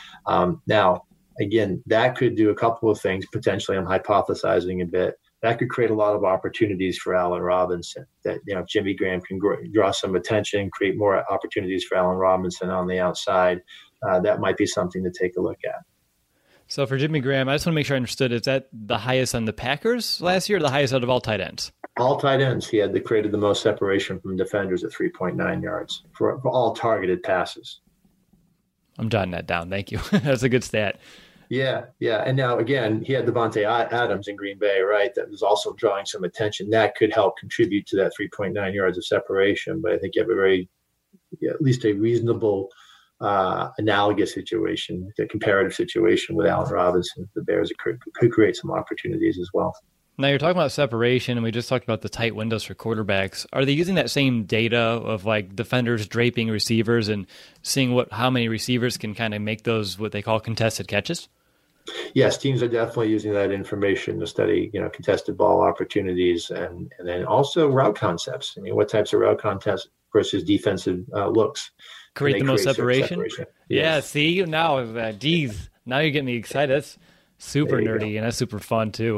Now, again, that could do a couple of things. Potentially, I'm hypothesizing a bit. That could create a lot of opportunities for Allen Robinson. That if Jimmy Graham can draw some attention, create more opportunities for Allen Robinson on the outside. That might be something to take a look at. So for Jimmy Graham, I just want to make sure I understood. Is that the highest on the Packers last year, or the highest out of all tight ends? All tight ends. He had created the most separation from defenders at 3.9 yards for all targeted passes. I'm jotting that down. Thank you. That's a good stat. Yeah. And now, again, he had Devontae Adams in Green Bay, right? That was also drawing some attention. That could help contribute to that 3.9 yards of separation. But I think you have at least a reasonable analogous situation, a comparative situation with Allen Robinson. The Bears could create some opportunities as well. Now you're talking about separation, and we just talked about the tight windows for quarterbacks. Are they using that same data of like defenders draping receivers and seeing how many receivers can kind of make those what they call contested catches? Yes, teams are definitely using that information to study, contested ball opportunities and then also route concepts. I mean, what types of route concepts versus defensive looks create the most separation? Yes. Yeah, see, now you're getting me excited. That's super nerdy, and that's super fun too.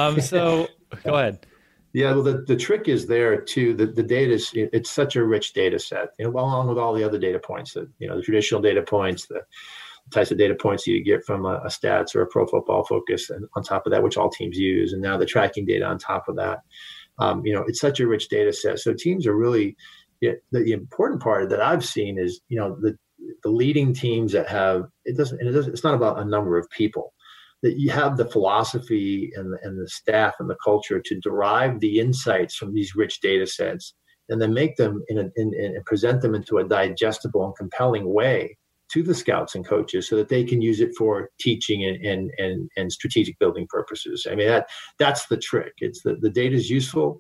So go ahead. Yeah, well, the trick is there too. The data it's such a rich data set, along with all the other data points that the traditional data points, the types of data points you get from a stats or a Pro Football Focus, and on top of that, which all teams use, and now the tracking data on top of that. It's such a rich data set. So teams are really the important part that I've seen is the leading teams that have it's not about a number of people. That you have the philosophy and the staff and the culture to derive the insights from these rich data sets and then make them and present them into a digestible and compelling way to the scouts and coaches so that they can use it for teaching and strategic building purposes. I mean, that's the trick. It's the data is useful,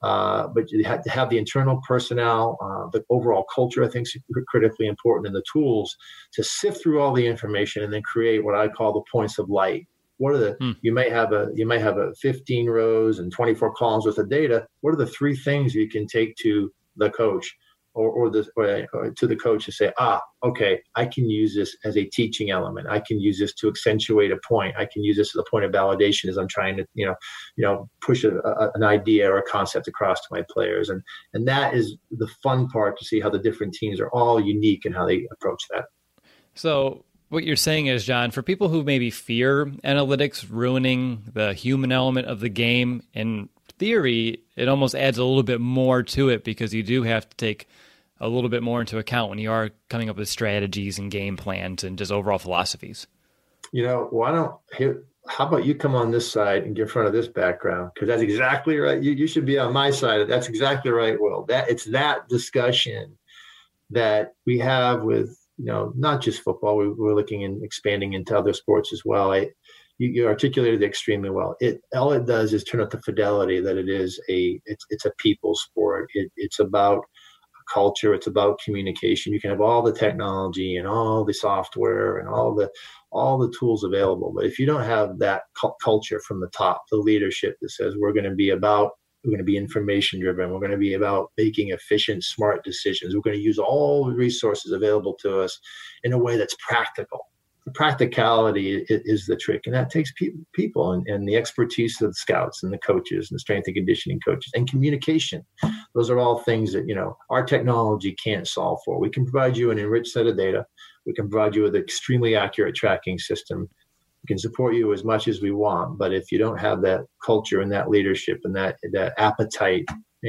but you have to have the internal personnel, the overall culture, I think, is critically important, and the tools to sift through all the information and then create what I call the points of light. What are you might have a 15 rows and 24 columns worth of data. What are the three things you can take to the coach or to the coach to say, okay, I can use this as a teaching element. I can use this to accentuate a point. I can use this as a point of validation as I'm trying to, push an idea or a concept across to my players. And that is the fun part, to see how the different teams are all unique and how they approach that. So what you're saying is, John, for people who maybe fear analytics ruining the human element of the game, in theory, it almost adds a little bit more to it because you do have to take a little bit more into account when you are coming up with strategies and game plans and just overall philosophies. How about you come on this side and get in front of this background? Because that's exactly right. You should be on my side. That's exactly right, Will. It's that discussion that we have with, not just football. We're looking and expanding into other sports as well. You articulated it extremely well. All it does is turn up the fidelity that it's a people sport. It's about culture. It's about communication. You can have all the technology and all the software and all the tools available, but if you don't have that culture from the top, the leadership that says we're going to be information driven, we're going to be about making efficient, smart decisions, we're going to use all the resources available to us in a way that's practical. The practicality is the trick, and that takes people and the expertise of the scouts and the coaches and the strength and conditioning coaches and communication. Those are all things that our technology can't solve for. We can provide you an enriched set of data. We can provide you with an extremely accurate tracking system. We can support you as much as we want, but if you don't have that culture and that leadership and that appetite,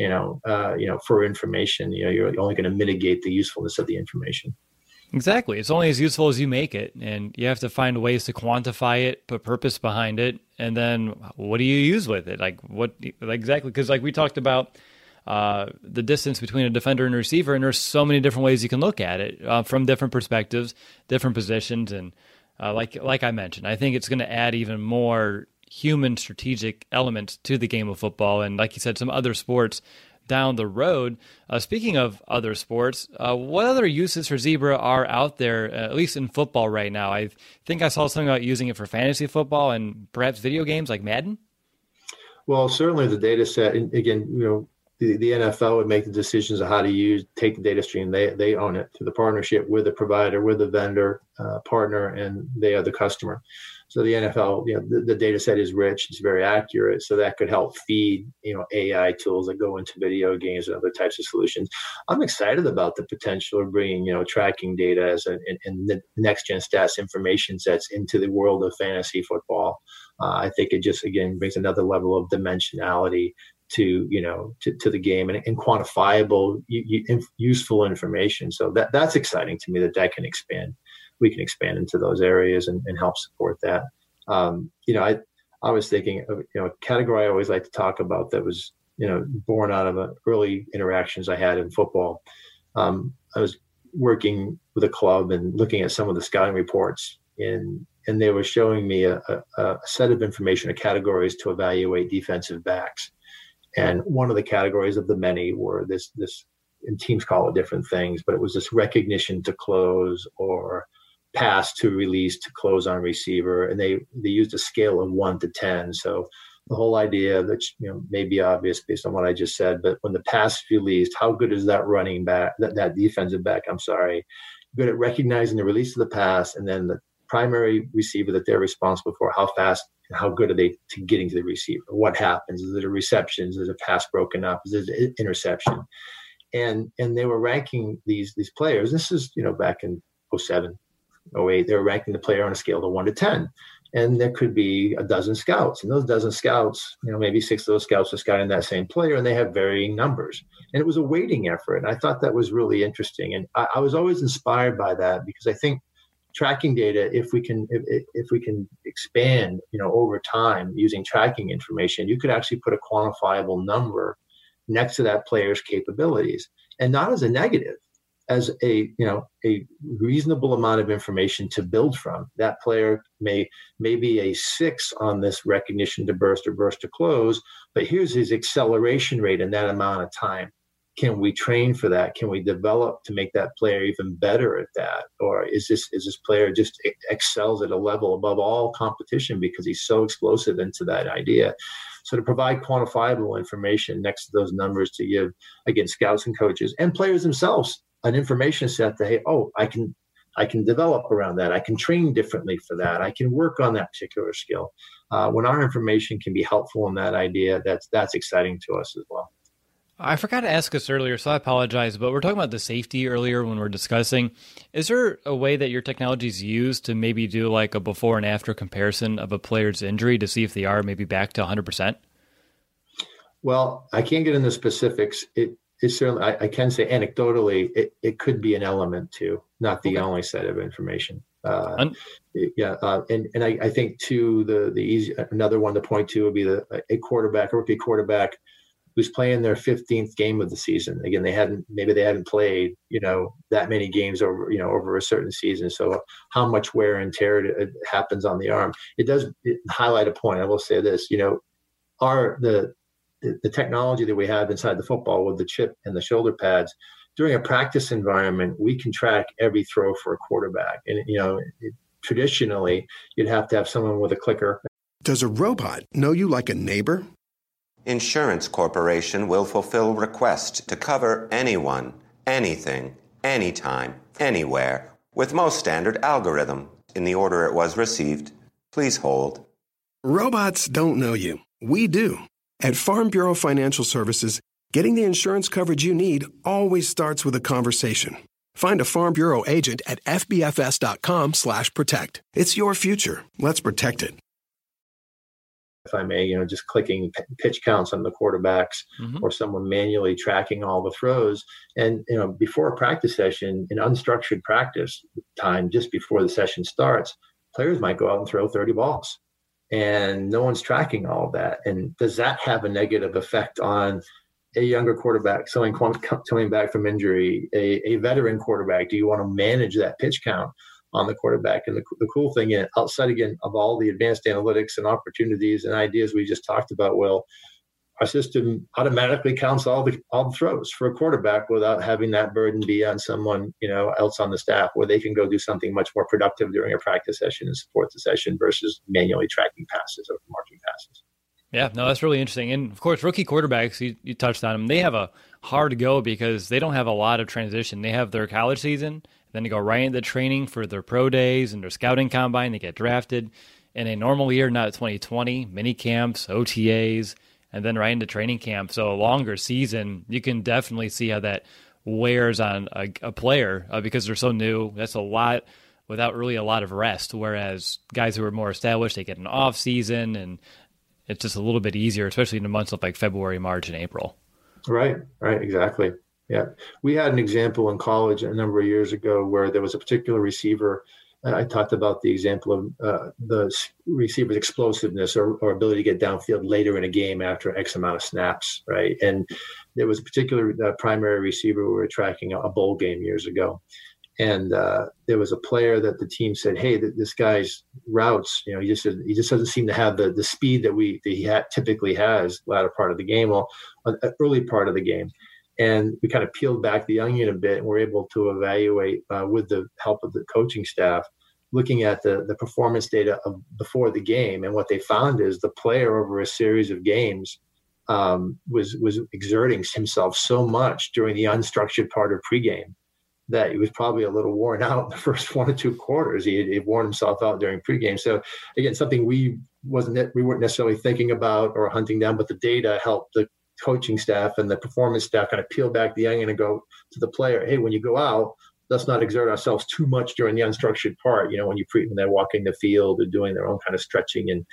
for information, you're only going to mitigate the usefulness of the information. Exactly. It's only as useful as you make it, and you have to find ways to quantify it, put purpose behind it, and then what do you use with it? Exactly, because we talked about the distance between a defender and a receiver, and there's so many different ways you can look at it from different perspectives, different positions, and like I mentioned, I think it's going to add even more human strategic elements to the game of football, and like you said, some other sports down the road. Speaking of other sports, what other uses for Zebra are out there, at least in football right now? I think I saw something about using it for fantasy football and perhaps video games like Madden. Well, certainly the data set, and again, the NFL would make the decisions of how to take the data stream. They own it through the partnership with the provider, with the vendor partner, and they are the customer. So the NFL, the data set is rich, it's very accurate. So that could help feed, AI tools that go into video games and other types of solutions. I'm excited about the potential of bringing, tracking data and the next gen stats information sets into the world of fantasy football. I think it just, again, brings another level of dimensionality to the game and quantifiable, useful information. So that's exciting to me that can expand. We can expand into those areas and help support that. I was thinking of, a category I always like to talk about that was, born out of early interactions I had in football. I was working with a club and looking at some of the scouting reports, and they were showing me a set of information, categories to evaluate defensive backs. And one of the categories of the many were this, and teams call it different things, but it was this recognition to close or pass to release to close on receiver. And they used a scale of 1 to 10. So the whole idea that, may be obvious based on what I just said, but when the pass is released, how good is that running back, that defensive back, good at recognizing the release of the pass, and then the primary receiver that they're responsible for, how fast and how good are they to getting to the receiver? What happens? Is it a reception? Is it a pass broken up? Is it an interception? And they were ranking these players. This is, back in 07, 08, they were ranking the player on a scale of 1 to 10. And there could be a dozen scouts. And those dozen scouts, maybe 6 of those scouts are scouting that same player, and they have varying numbers. And it was a weighting effort. And I thought that was really interesting. And I was always inspired by that, because I think tracking data, if we can expand, over time using tracking information, you could actually put a quantifiable number next to that player's capabilities, and not as a negative, as a reasonable amount of information to build from. That player may be a 6 on this recognition to burst or burst to close, but here's his acceleration rate in that amount of time. Can we train for that? Can we develop to make that player even better at that? Or is this player just excels at a level above all competition because he's so explosive into that idea? So to provide quantifiable information next to those numbers to give, again, scouts and coaches and players themselves an information set that, hey, I can develop around that. I can train differently for that. I can work on that particular skill. When our information can be helpful in that idea, that's exciting to us as well. I forgot to ask this earlier, so I apologize, but we're talking about the safety earlier when we're discussing. Is there a way that your technology is used to maybe do like a before and after comparison of a player's injury to see if they are maybe back to 100%? Well, I can't get into specifics. It's certainly, I can say anecdotally, it could be an element too, not the only set of information. And I think too, the easy, another one to point to would be a rookie quarterback who's playing their 15th game of the season. Again, they hadn't played, that many games over a certain season. So how much wear and tear happens on the arm. It does highlight a point. I will say this, the technology that we have inside the football with the chip and the shoulder pads, during a practice environment, we can track every throw for a quarterback. And, traditionally, you'd have to have someone with a clicker. Does a robot know you like a neighbor? Insurance Corporation will fulfill requests to cover anyone, anything, anytime, anywhere, with most standard algorithm in the order it was received. Please hold. Robots don't know you. We do. At Farm Bureau Financial Services, getting the insurance coverage you need always starts with a conversation. Find a Farm Bureau agent at fbfs.com/protect. It's your future. Let's protect it. If I may, just clicking pitch counts on the quarterbacks, or someone manually tracking all the throws. And, before a practice session, in unstructured practice time, just before the session starts, players might go out and throw 30 balls. And no one's tracking all of that. And does that have a negative effect on a younger quarterback, someone coming back from injury, a veteran quarterback? Do you want to manage that pitch count on the quarterback? And the cool thing, outside again of all the advanced analytics and opportunities and ideas we just talked about, Will, our system automatically counts all the throws for a quarterback without having that burden be on someone else on the staff, where they can go do something much more productive during a practice session and support the session versus manually tracking passes or marking passes. Yeah, no, that's really interesting. And of course, rookie quarterbacks, you touched on them, they have a hard go because they don't have a lot of transition. They have their college season, then they go right into training for their pro days and their scouting combine. They get drafted in a normal year, not 2020, mini camps, OTAs, and then right into training camp. So a longer season, you can definitely see how that wears on a player because they're so new. That's a lot without really a lot of rest, whereas guys who are more established, they get an off season, and it's just a little bit easier, especially in the months of like February, March, and April. Right, exactly. Yeah. We had an example in college a number of years ago where there was a particular receiver I talked about the example of the receiver's explosiveness or ability to get downfield later in a game after X amount of snaps, right? And there was a particular primary receiver we were tracking a bowl game years ago. And there was a player that the team said, "Hey, this guy's routes, he just doesn't seem to have the speed that he typically has latter part of the game, or early part of the game." And we kind of peeled back the onion a bit, and we're able to evaluate with the help of the coaching staff, looking at the performance data of before the game. And what they found is the player over a series of games was exerting himself so much during the unstructured part of pregame that he was probably a little worn out in the first 1 or 2 quarters. He worn himself out during pregame. So again, something we weren't necessarily thinking about or hunting down, but the data helped the coaching staff and the performance staff kind of peel back the onion and go to the player, "Hey, when you go out, let's not exert ourselves too much during the unstructured part. When they're walking the field or doing their own kind of stretching and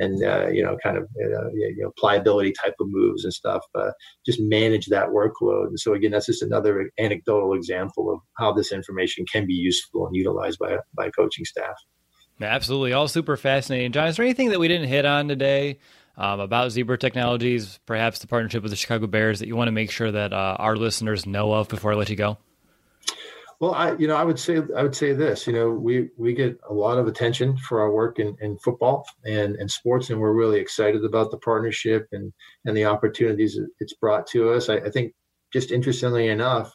pliability type of moves and stuff. Just manage that workload." And so again, that's just another anecdotal example of how this information can be useful and utilized by coaching staff. Absolutely, all super fascinating. John, is there anything that we didn't hit on today about Zebra Technologies, perhaps the partnership with the Chicago Bears, that you want to make sure that our listeners know of before I let you go? Well, I would say this. We get a lot of attention for our work in football and sports, and we're really excited about the partnership and the opportunities it's brought to us. I think, just interestingly enough,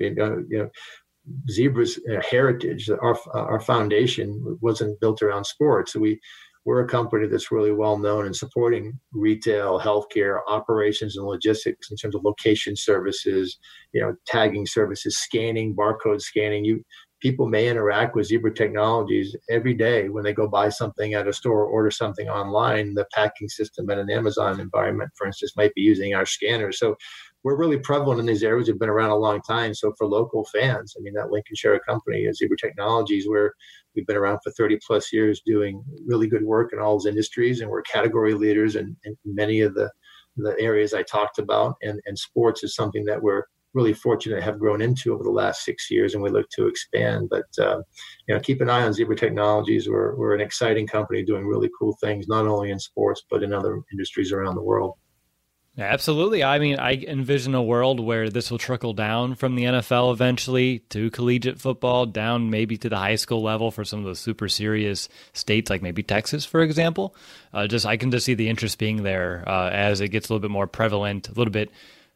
Zebra's heritage, our foundation wasn't built around sports. So we're a company that's really well known in supporting retail, healthcare, operations, and logistics in terms of location services, tagging services, scanning, barcode scanning. People may interact with Zebra Technologies every day when they go buy something at a store or order something online. The packing system at an Amazon environment, for instance, might be using our scanners. So we're really prevalent in these areas. We've been around a long time. So for local fans, that Lincolnshire company is Zebra Technologies, where we've been around for 30 plus years doing really good work in all those industries. And we're category leaders in many of the areas I talked about. And sports is something that we're really fortunate to have grown into over the last 6 years, and we look to expand. But, keep an eye on Zebra Technologies. We're an exciting company doing really cool things, not only in sports, but in other industries around the world. Absolutely. I envision a world where this will trickle down from the NFL eventually to collegiate football, down maybe to the high school level for some of those super serious states, like maybe Texas, for example. I can just see the interest being there as it gets a little bit more prevalent, a little bit.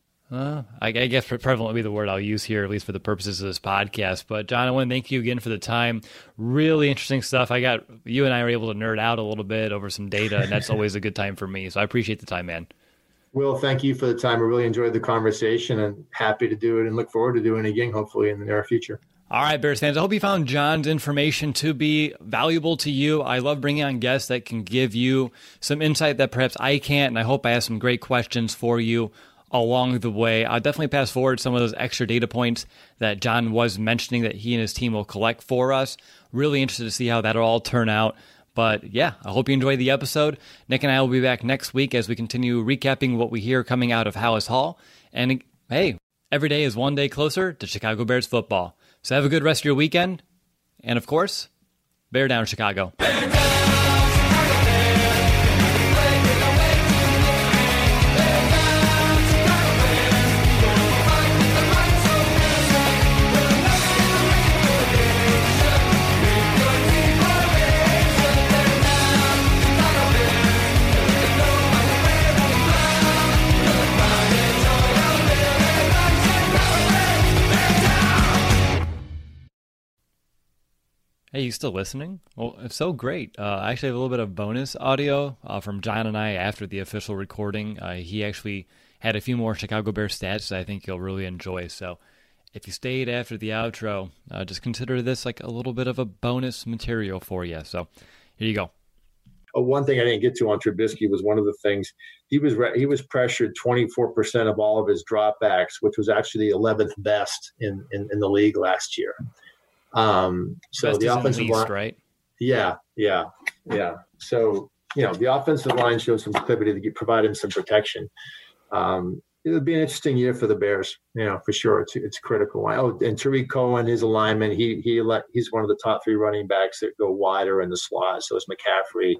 I guess prevalent would be the word I'll use here, at least for the purposes of this podcast. But John, I want to thank you again for the time. Really interesting stuff. You and I were able to nerd out a little bit over some data, and that's always a good time for me. So I appreciate the time, man. Will, thank you for the time. I really enjoyed the conversation and happy to do it and look forward to doing it again, hopefully in the near future. All right, Bears fans, I hope you found John's information to be valuable to you. I love bringing on guests that can give you some insight that perhaps I can't, and I hope I have some great questions for you along the way. I'll definitely pass forward some of those extra data points that John was mentioning that he and his team will collect for us. Really interested to see how that'll all turn out. But yeah, I hope you enjoyed the episode. Nick and I will be back next week as we continue recapping what we hear coming out of Halas Hall. And hey, every day is one day closer to Chicago Bears football. So have a good rest of your weekend. And of course, Bear down, Chicago. Hey, you still listening? Well, if so, great. I actually have a little bit of bonus audio from John and I after the official recording. He actually had a few more Chicago Bears stats that I think you'll really enjoy. So if you stayed after the outro, just consider this like a little bit of a bonus material for you. So here you go. One thing I didn't get to on Trubisky was one of the things he was pressured 24% of all of his dropbacks, which was actually the 11th best in the league last year. So best the offensive line, right? Yeah. So, the offensive line showed some proclivity to provide him some protection. It'll be an interesting year for the Bears, for sure. It's critical. Oh, and Tariq Cohen, his alignment, he's one of the top 3 running backs that go wider in the slot. So it's McCaffrey,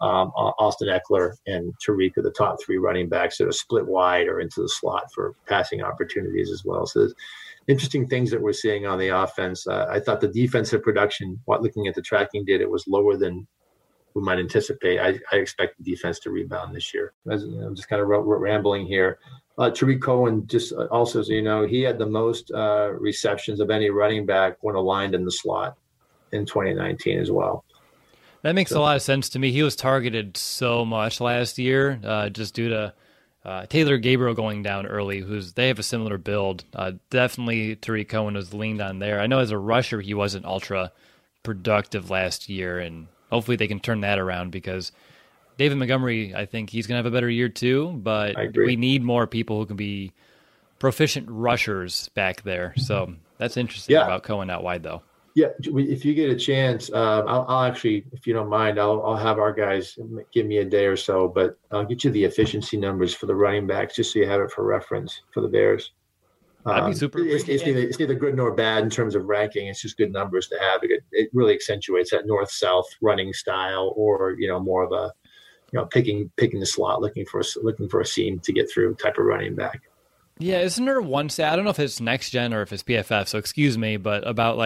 Austin Eckler, and Tariq are the top 3 running backs that are split wide or into the slot for passing opportunities as well. So there's interesting things that we're seeing on the offense. I thought the defensive production, looking at the tracking data, it was lower than we might anticipate. I expect the defense to rebound this year. I'm just kind of rambling here. Tariq Cohen, just also, so he had the most receptions of any running back when aligned in the slot in 2019 as well. That makes a lot of sense to me. He was targeted so much last year just due to Taylor Gabriel going down early, they have a similar build. Definitely Tariq Cohen was leaned on there. I know as a rusher, he wasn't ultra productive last year, and hopefully they can turn that around because David Montgomery, I think he's going to have a better year too, but we need more people who can be proficient rushers back there. So that's interesting about Cohen out wide, though. Yeah, if you get a chance, I'll actually, if you don't mind, I'll have our guys give me a day or so, but I'll get you the efficiency numbers for the running backs just so you have it for reference for the Bears. That'd be super. It's neither good nor bad in terms of ranking. It's just good numbers to have. It really accentuates that north-south running style, or more of a picking the slot, looking for a seam to get through type of running back. Yeah, isn't there one stat? I don't know if it's next gen or if it's PFF, so excuse me, but about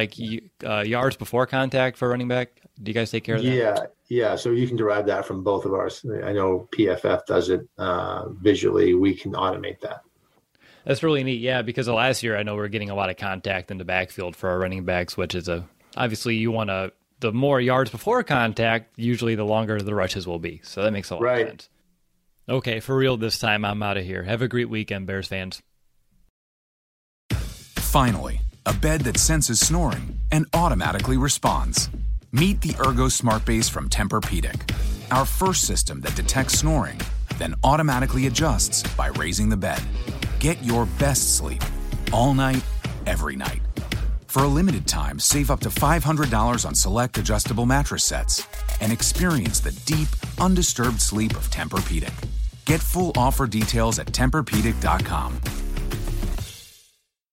yards before contact for running back. Do you guys take care of that? Yeah. So you can derive that from both of ours. I know PFF does it visually. We can automate that. That's really neat. Yeah, because of last year, I know we're getting a lot of contact in the backfield for our running backs, which is obviously you want the more yards before contact, usually the longer the rushes will be. So that makes a lot of sense. Okay, for real this time, I'm out of here. Have a great weekend, Bears fans. Finally, a bed that senses snoring and automatically responds. Meet the Ergo Smart Base from Tempur-Pedic, our first system that detects snoring, then automatically adjusts by raising the bed. Get your best sleep all night, every night. For a limited time, save up to $500 on select adjustable mattress sets and experience the deep, undisturbed sleep of Tempur-Pedic. Get full offer details at TempurPedic.com.